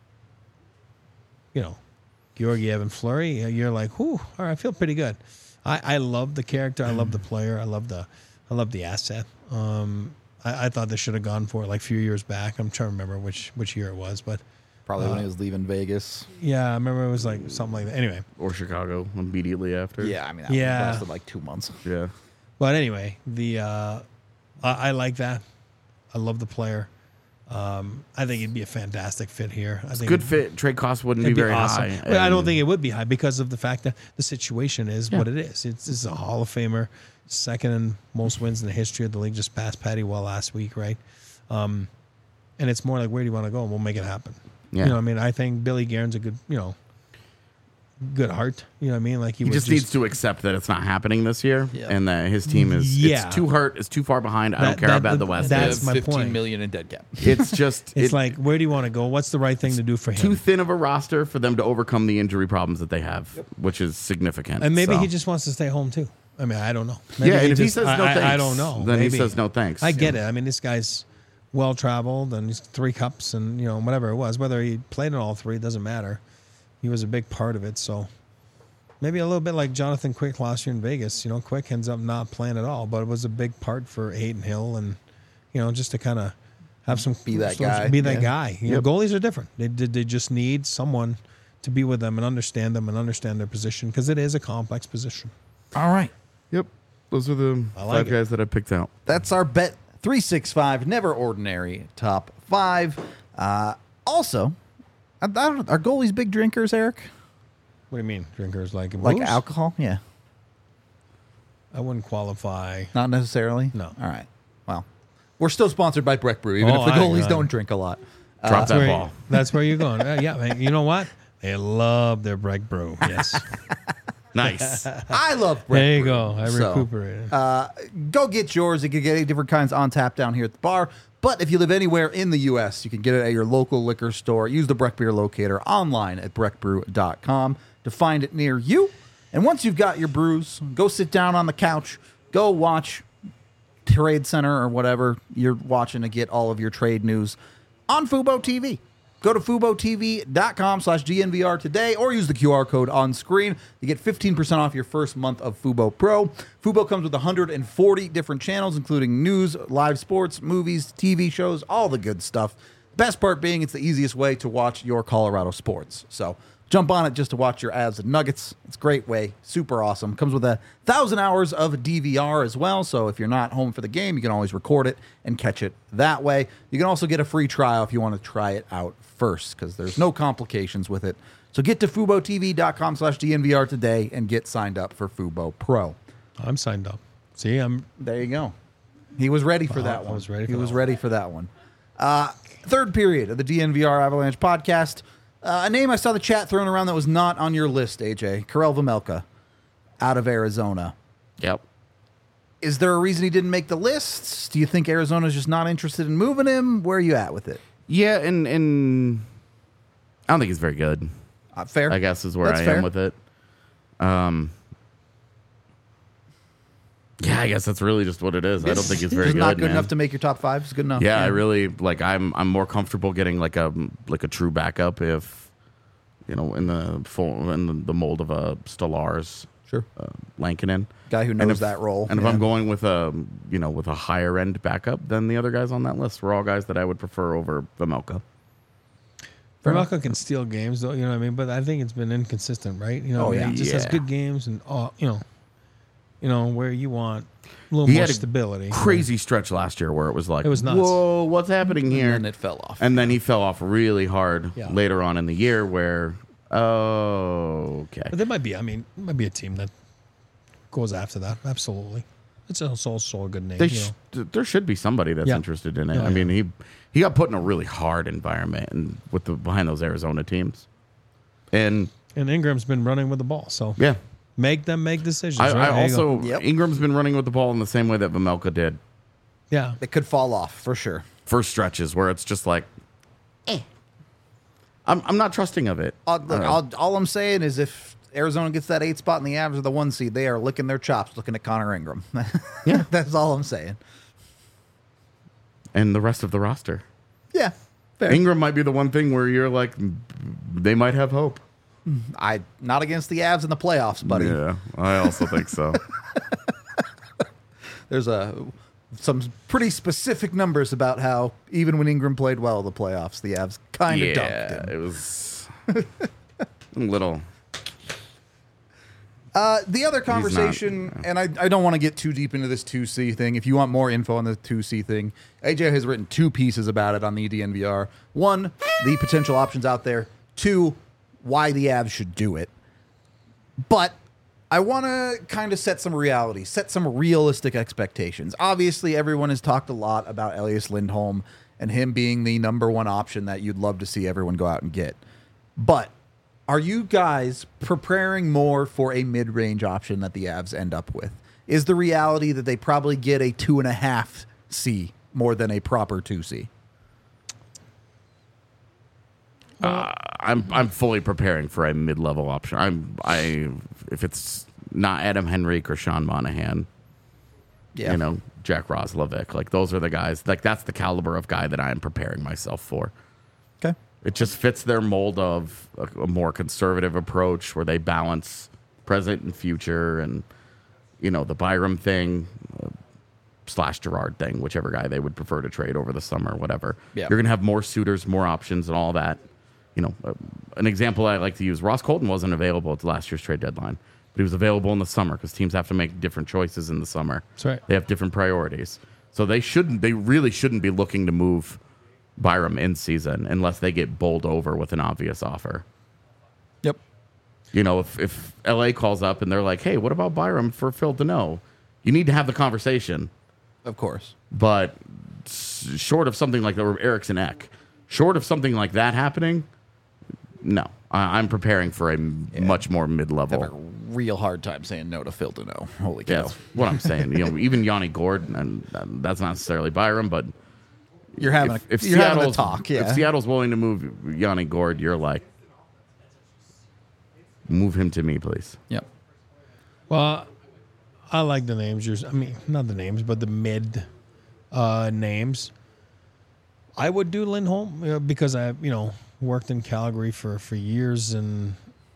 you know, Georgiev and Fleury. You're like, whew, all right, I feel pretty good. I, I love the character. I love the player. I love the, I love the asset. Um, I, I thought they should have gone for it like a few years back. I'm trying to remember which which year it was, but Probably Uh, when he was leaving Vegas. yeah, I remember it was like something like that. Anyway, Or Chicago immediately after. Yeah, I mean, that Yeah. lasted like two months. Yeah. but anyway, the uh, I, I like that. I love the player. Um, I think it'd be a fantastic fit here. I think Good it'd- fit. Trade cost wouldn't It'd be be very awesome. high. But I don't and- think it would be high because of the fact that the situation is Yeah. what it is. It's, it's a Hall of Famer, second in most wins in the history of the league. Just passed Patty Well last week, right? Um, and it's more like, where do you want to go? And we'll make it happen. Yeah. You know, what I mean, I think Billy Guerin's a good, you know, good heart. You know what I mean? Like he, He was just, needs to accept that it's not happening this year, Yeah. and that his team is Yeah. it's too hurt, it's too far behind. I That- don't care that- how bad the that- West that's is. my fifteen point. million in dead cap. It's just It's it- like, where do you want to go? What's the right thing to do for him? too thin of a roster for them to overcome the injury problems that they have, which is significant. and maybe So- he just wants to stay home too. I mean, I don't know. Maybe yeah. And if he just- says I- no I, thanks, I don't know. Then Maybe. he says no thanks. I get it. I mean, this guy's well traveled and he's three cups and you know whatever it was. Whether he played in all three doesn't matter. He was a big part of it. So maybe a little bit like Jonathan Quick last year in Vegas. You know, Quick ends up not playing at all, but it was a big part for Hayden Hill and you know just to kind of have some Be that some- guy. Be that Yeah. guy. You Yep. know, goalies are different. They they they just need someone to be with them and understand them and understand their position because it is a complex position. All right. Yep. Those are the I like five it. guys that I picked out. That's our Bet three sixty-five Never Ordinary Top five. Uh, also, I, I don't, are goalies big drinkers, Eric? What do you mean, drinkers like Like booze? alcohol? Yeah. I wouldn't qualify. Not necessarily? No. All right. Well, we're still sponsored by Breck Brew, even Oh, if the I- goalies I- don't drink a lot. Drop That's that where, ball. that's where you're going. Uh, yeah, man, you know what? They love their Breck Brew. Yes. Nice. I love Breck there you Brew. go. I So, recuperated. Uh, go get yours. You can get eight different kinds on tap down here at the bar. But if you live anywhere in the U S, you can get it at your local liquor store. Use the Breck Beer Locator online at breck brew dot com to find it near you. And once you've got your brews, go sit down on the couch. Go watch Trade Center or whatever you're watching to get all of your trade news on Fubo T V. Go to FuboTV.com slash DNVR today or use the Q R code on screen. You get fifteen percent off your first month of Fubo Pro. Fubo comes with one hundred forty different channels, including news, live sports, movies, T V shows, all the good stuff. Best part being it's the easiest way to watch your Colorado sports. So jump on it just to watch your Avs and Nuggets. It's a great way. Super awesome. Comes with a thousand hours of D V R as well. So if you're not home for the game, you can always record it and catch it that way. You can also get a free trial if you want to try it out first, because there's no complications with it. So get to FuboTV.com slash DNVR today and get signed up for Fubo Pro. I'm signed up. See, I'm. There you go. He was ready for Uh, that I one. was ready for he that was one. ready for that one. Uh, third period of the D N V R Avalanche podcast. Uh, a name I saw the chat thrown around that was not on your list, A J. Karel Vejmelka, out of Arizona. Yep. Is there a reason he didn't make the lists? Do you think Arizona's just not interested in moving him? Where are you at with it? Yeah, and and I don't think he's very good. Uh, fair. I guess is where That's I fair. am with it. Um. Yeah, I guess that's really just what it is. I don't think he's very Just good. not good man. enough to make your top five. It's good enough. Yeah, I really like. I'm I'm more comfortable getting like a like a true backup if, you know, in the full in the, the mold of a Stellars, Sure. uh, Lankinen Guy who And knows if- that role. And if Yeah. I'm going with a you know with a higher end backup than the other guys on that list, we're all guys that I would prefer over Vejmelka. Vermelka can steal games, though. You know what I mean? But I think it's been inconsistent, right? You know, Oh, I mean, yeah. he just has Yeah. good games and all. You know, you know where you want a little He more had a stability. Crazy stretch last year where it was like, It was nuts. whoa, what's happening here? And then it fell off. And then he fell off really hard Yeah. later on in the year where, oh, okay. But there might be. I mean, there might be a team that goes after that. Absolutely, it's also, also a good name. They you sh- know. there should be somebody that's Yeah. interested in it. Yeah, I mean, he he got put in a really hard environment and with the behind those Arizona teams, and And Ingram's been running with the ball, so yeah, make them make decisions. I, right? I There you go. also Yep. Ingram's been running with the ball in the same way that Vejmelka did yeah. It could fall off for sure. for stretches where it's just like, eh. I'm I'm not trusting of it. Uh, look, Uh, all, all I'm saying is if Arizona gets that eight spot in the Avs or the one seed, they are licking their chops looking at Connor Ingram. Yeah. That's all I'm saying. and the rest of the roster. Yeah. Fair. Ingram might be the one thing where you're like, they might have hope. I not against the Avs in the playoffs, buddy. Yeah, I also think so. There's a some pretty specific numbers about how even when Ingram played well in the playoffs, the Avs kind of dumped yeah, him. it was a little. Uh, the other conversation, and I, I don't want to get too deep into this two C thing. If you want more info on the two C thing, A J has written two pieces about it on the D N V R. One, the potential options out there. Two, why the Avs should do it. But I want to kind of set some reality, set some realistic expectations. Obviously, everyone has talked a lot about Elias Lindholm and him being the number one option that you'd love to see everyone go out and get. But are you guys preparing more for a mid-range option that the Avs end up with? Is the reality that they probably get a two and a half C more than a proper two C? Uh, I'm I'm fully preparing for a mid level option. I'm I if it's not Adam Henrique or Sean Monahan, Yeah. you know, Jack Roslovic, like those are the guys. Like that's the caliber of guy that I'm preparing myself for. Okay. It just fits their mold of a, a more conservative approach where they balance present and future, and you know the Byram thing uh, slash Gerard thing, whichever guy they would prefer to trade over the summer, whatever. Yeah. You're gonna have more suitors, more options, and all that. You know, uh, an example I like to use: Ross Colton wasn't available at the last year's trade deadline, but he was available in the summer because teams have to make different choices in the summer. That's right. They have different priorities, so they shouldn't. They really shouldn't be looking to move Byram in season unless they get bowled over with an obvious offer. Yep. You know, if, if L A calls up and they're like, hey, what about Byram for Phil Deneau? You need to have the conversation. Of course. But s- short of something like the Eriksson Ek, short of something like that happening, no. I, I'm preparing for a m- much more I have a mid-level. real hard time saying no to Phil Deneau. Holy Yeah, cow. that's what I'm saying. You know, even Yanni Gord, and uh, that's not necessarily Byram, but You're having if, a, if you're having a Seattle's talk. Yeah. if Seattle's willing to move Yanni Gord, you're like, move him to me, please. Yep. Well, I like the names. Yours, I mean, not the names, but the mid uh, names. I would do Lindholm uh, because I, you know, worked in Calgary for, for years, and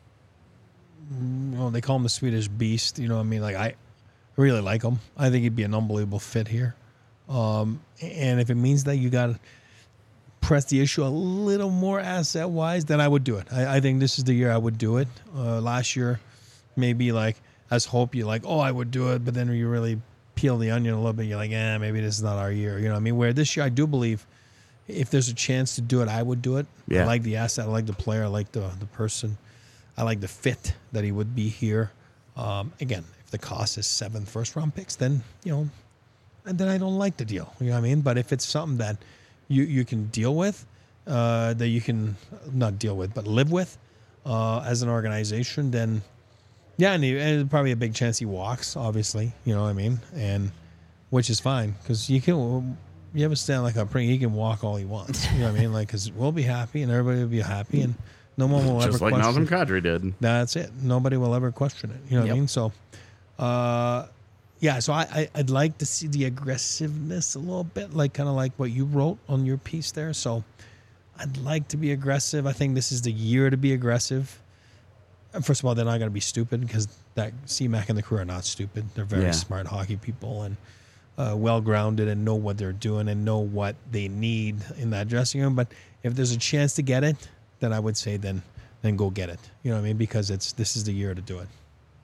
you know, they call him the Swedish Beast. You know what I mean? Like, I really like him. I think he'd be an unbelievable fit here. Um, and if it means that you got to press the issue a little more asset wise, then I would do it. I, I think this is the year I would do it. Uh, last year, maybe like as hope you like, oh, I would do it, but then you really peel the onion a little bit. You're like, eh, maybe this is not our year. You know what I mean? Where this year, I do believe if there's a chance to do it, I would do it. Yeah. I like the asset. I like the player. I like the the person. I like the fit that he would be here. Um, again, if the cost is seven first round picks, then, you know, and then I don't like the deal. You know what I mean? But if it's something that you, you can deal with, uh, that you can not deal with, but live with uh, as an organization, then yeah, and, he, and there's probably a big chance he walks, obviously. You know what I mean? And which is fine because you can, you ever stand like a pring, he can walk all he wants. You know what I mean? Like, because we'll be happy and everybody will be happy and no one will Just ever like question. Nazem Kadri did. That's it. Nobody will ever question it. You know what Yep. I mean? So, uh, yeah. So I, I I'd like to see the aggressiveness a little bit, like kind of like what you wrote on your piece there. So I'd like to be aggressive. I think this is the year to be aggressive. And first of all, they're not going to be stupid because that C Mac and the crew are not stupid. They're very Yeah. smart hockey people and uh, well grounded and know what they're doing and know what they need in that dressing room. But if there's a chance to get it, then I would say then then go get it. You know what I mean? Because it's this is the year to do it.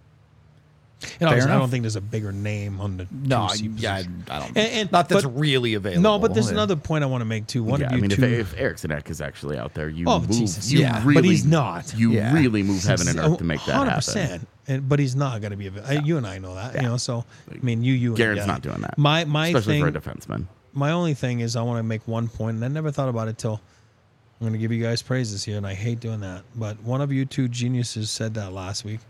And obviously, I enough. don't think there's a bigger name on the No, I, two C yeah, I, position. I don't. And- and- not that's but- really available. No, but there's Yeah. another point I want to make too. One Yeah, of I you mean, if, two. if Eriksson Ek is actually out there, you Oh, move. Jesus, you yeah, really, but he's not. You Yeah. really move heaven and earth to make that one hundred happen. percent. And, but he's not going to be available. You and I know that. You know, so I mean, you, you, and Garrett's yeah. not doing that. My my especially thing, for a defenseman. my only thing is I want to make one point, and I never thought about it till I'm going to give you guys praises here, and I hate doing that. But one of you two geniuses said that last week.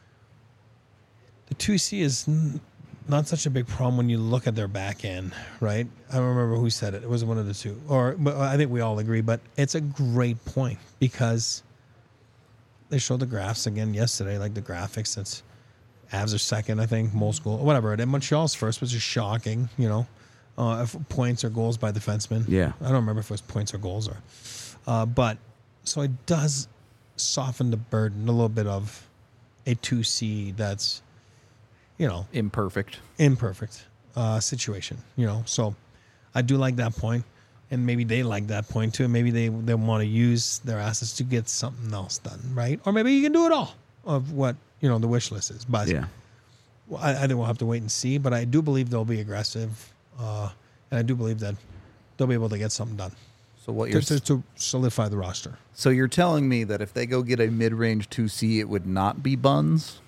The two C is n- not such a big problem when you look at their back end, right? I don't remember who said it. It was one of the two, or but I think we all agree. But it's a great point because they showed the graphs again yesterday, like the graphics. That's Avs are second, I think, most goal, whatever. And Montreal's first, which is shocking, you know, uh, if points or goals by defensemen. Yeah. I don't remember if it was points or goals or, uh, but so it does soften the burden a little bit of a two C that's, you know, imperfect. imperfect uh, situation, you know. So I do like that point, and maybe they like that point too. Maybe they they want to use their assets to get something else done, right? Or maybe you can do it all of what you know the wish list is. But Yeah. well, I, I think we'll have to wait and see. But I do believe they'll be aggressive, uh, and I do believe that they'll be able to get something done So what to, you're to, to solidify the roster. so you're telling me that if they go get a mid-range two C, it would not be Buns?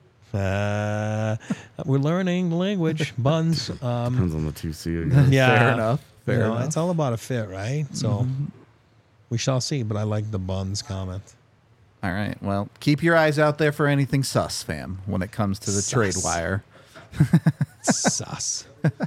Uh, we're learning the language, buns. Um, Depends on the two C. yeah, Fair enough. Fair you know, enough. It's all about a fit, right? So we shall see. But I like the buns comment. All right. Well, keep your eyes out there for anything sus, fam, when it comes to the Sus. trade wire. Sus.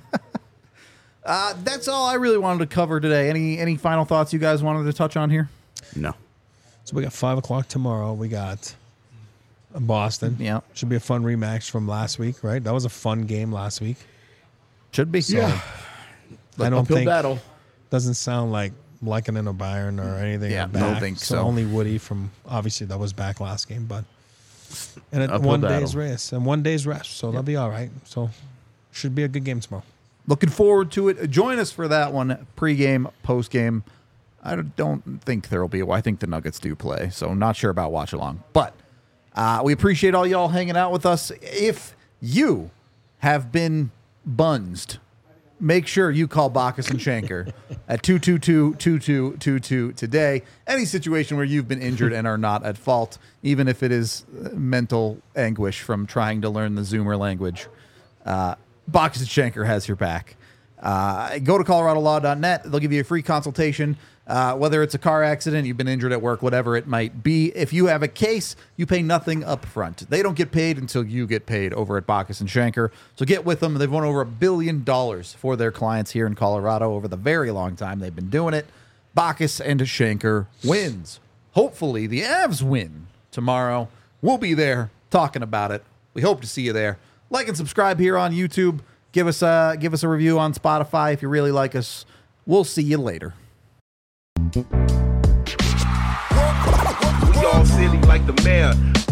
Uh, that's all I really wanted to cover today. Any any final thoughts you guys wanted to touch on here? No. So we got five o'clock tomorrow. We got Boston. Yeah. Should be a fun rematch from last week, right? That was a fun game last week. Should be. Yeah. I don't Uphill think battle. doesn't sound like Lekanen or Byron or anything. Yeah, are don't back. think so. Only Woody from obviously that was back last game, but and it, Uphill one battle. day's rest and one day's rest, so they'll be all right. So should be a good game tomorrow. Looking forward to it. Join us for that one, pregame, postgame. I don't think there will be. Well, I think the Nuggets do play, so I'm not sure about watch along. But uh, we appreciate all y'all hanging out with us. If you have been bunsed, make sure you call Bacchus and Shanker at two two two, two two two two today. Any situation where you've been injured and are not at fault, even if it is mental anguish from trying to learn the Zoomer language, uh, Bacchus and Shanker has your back. Uh, go to colorado law dot net. They'll give you a free consultation. Uh, whether it's a car accident, you've been injured at work, whatever it might be. If you have a case, you pay nothing up front. They don't get paid until you get paid over at Bacchus and Shanker. So get with them. They've won over a billion dollars for their clients here in Colorado over the very long time they've been doing it. Bacchus and Shanker wins. Hopefully the Avs win tomorrow. We'll be there talking about it. We hope to see you there. Like and subscribe here on YouTube. Give us a, give us a review on Spotify if you really like us. We'll see you later. the mayor.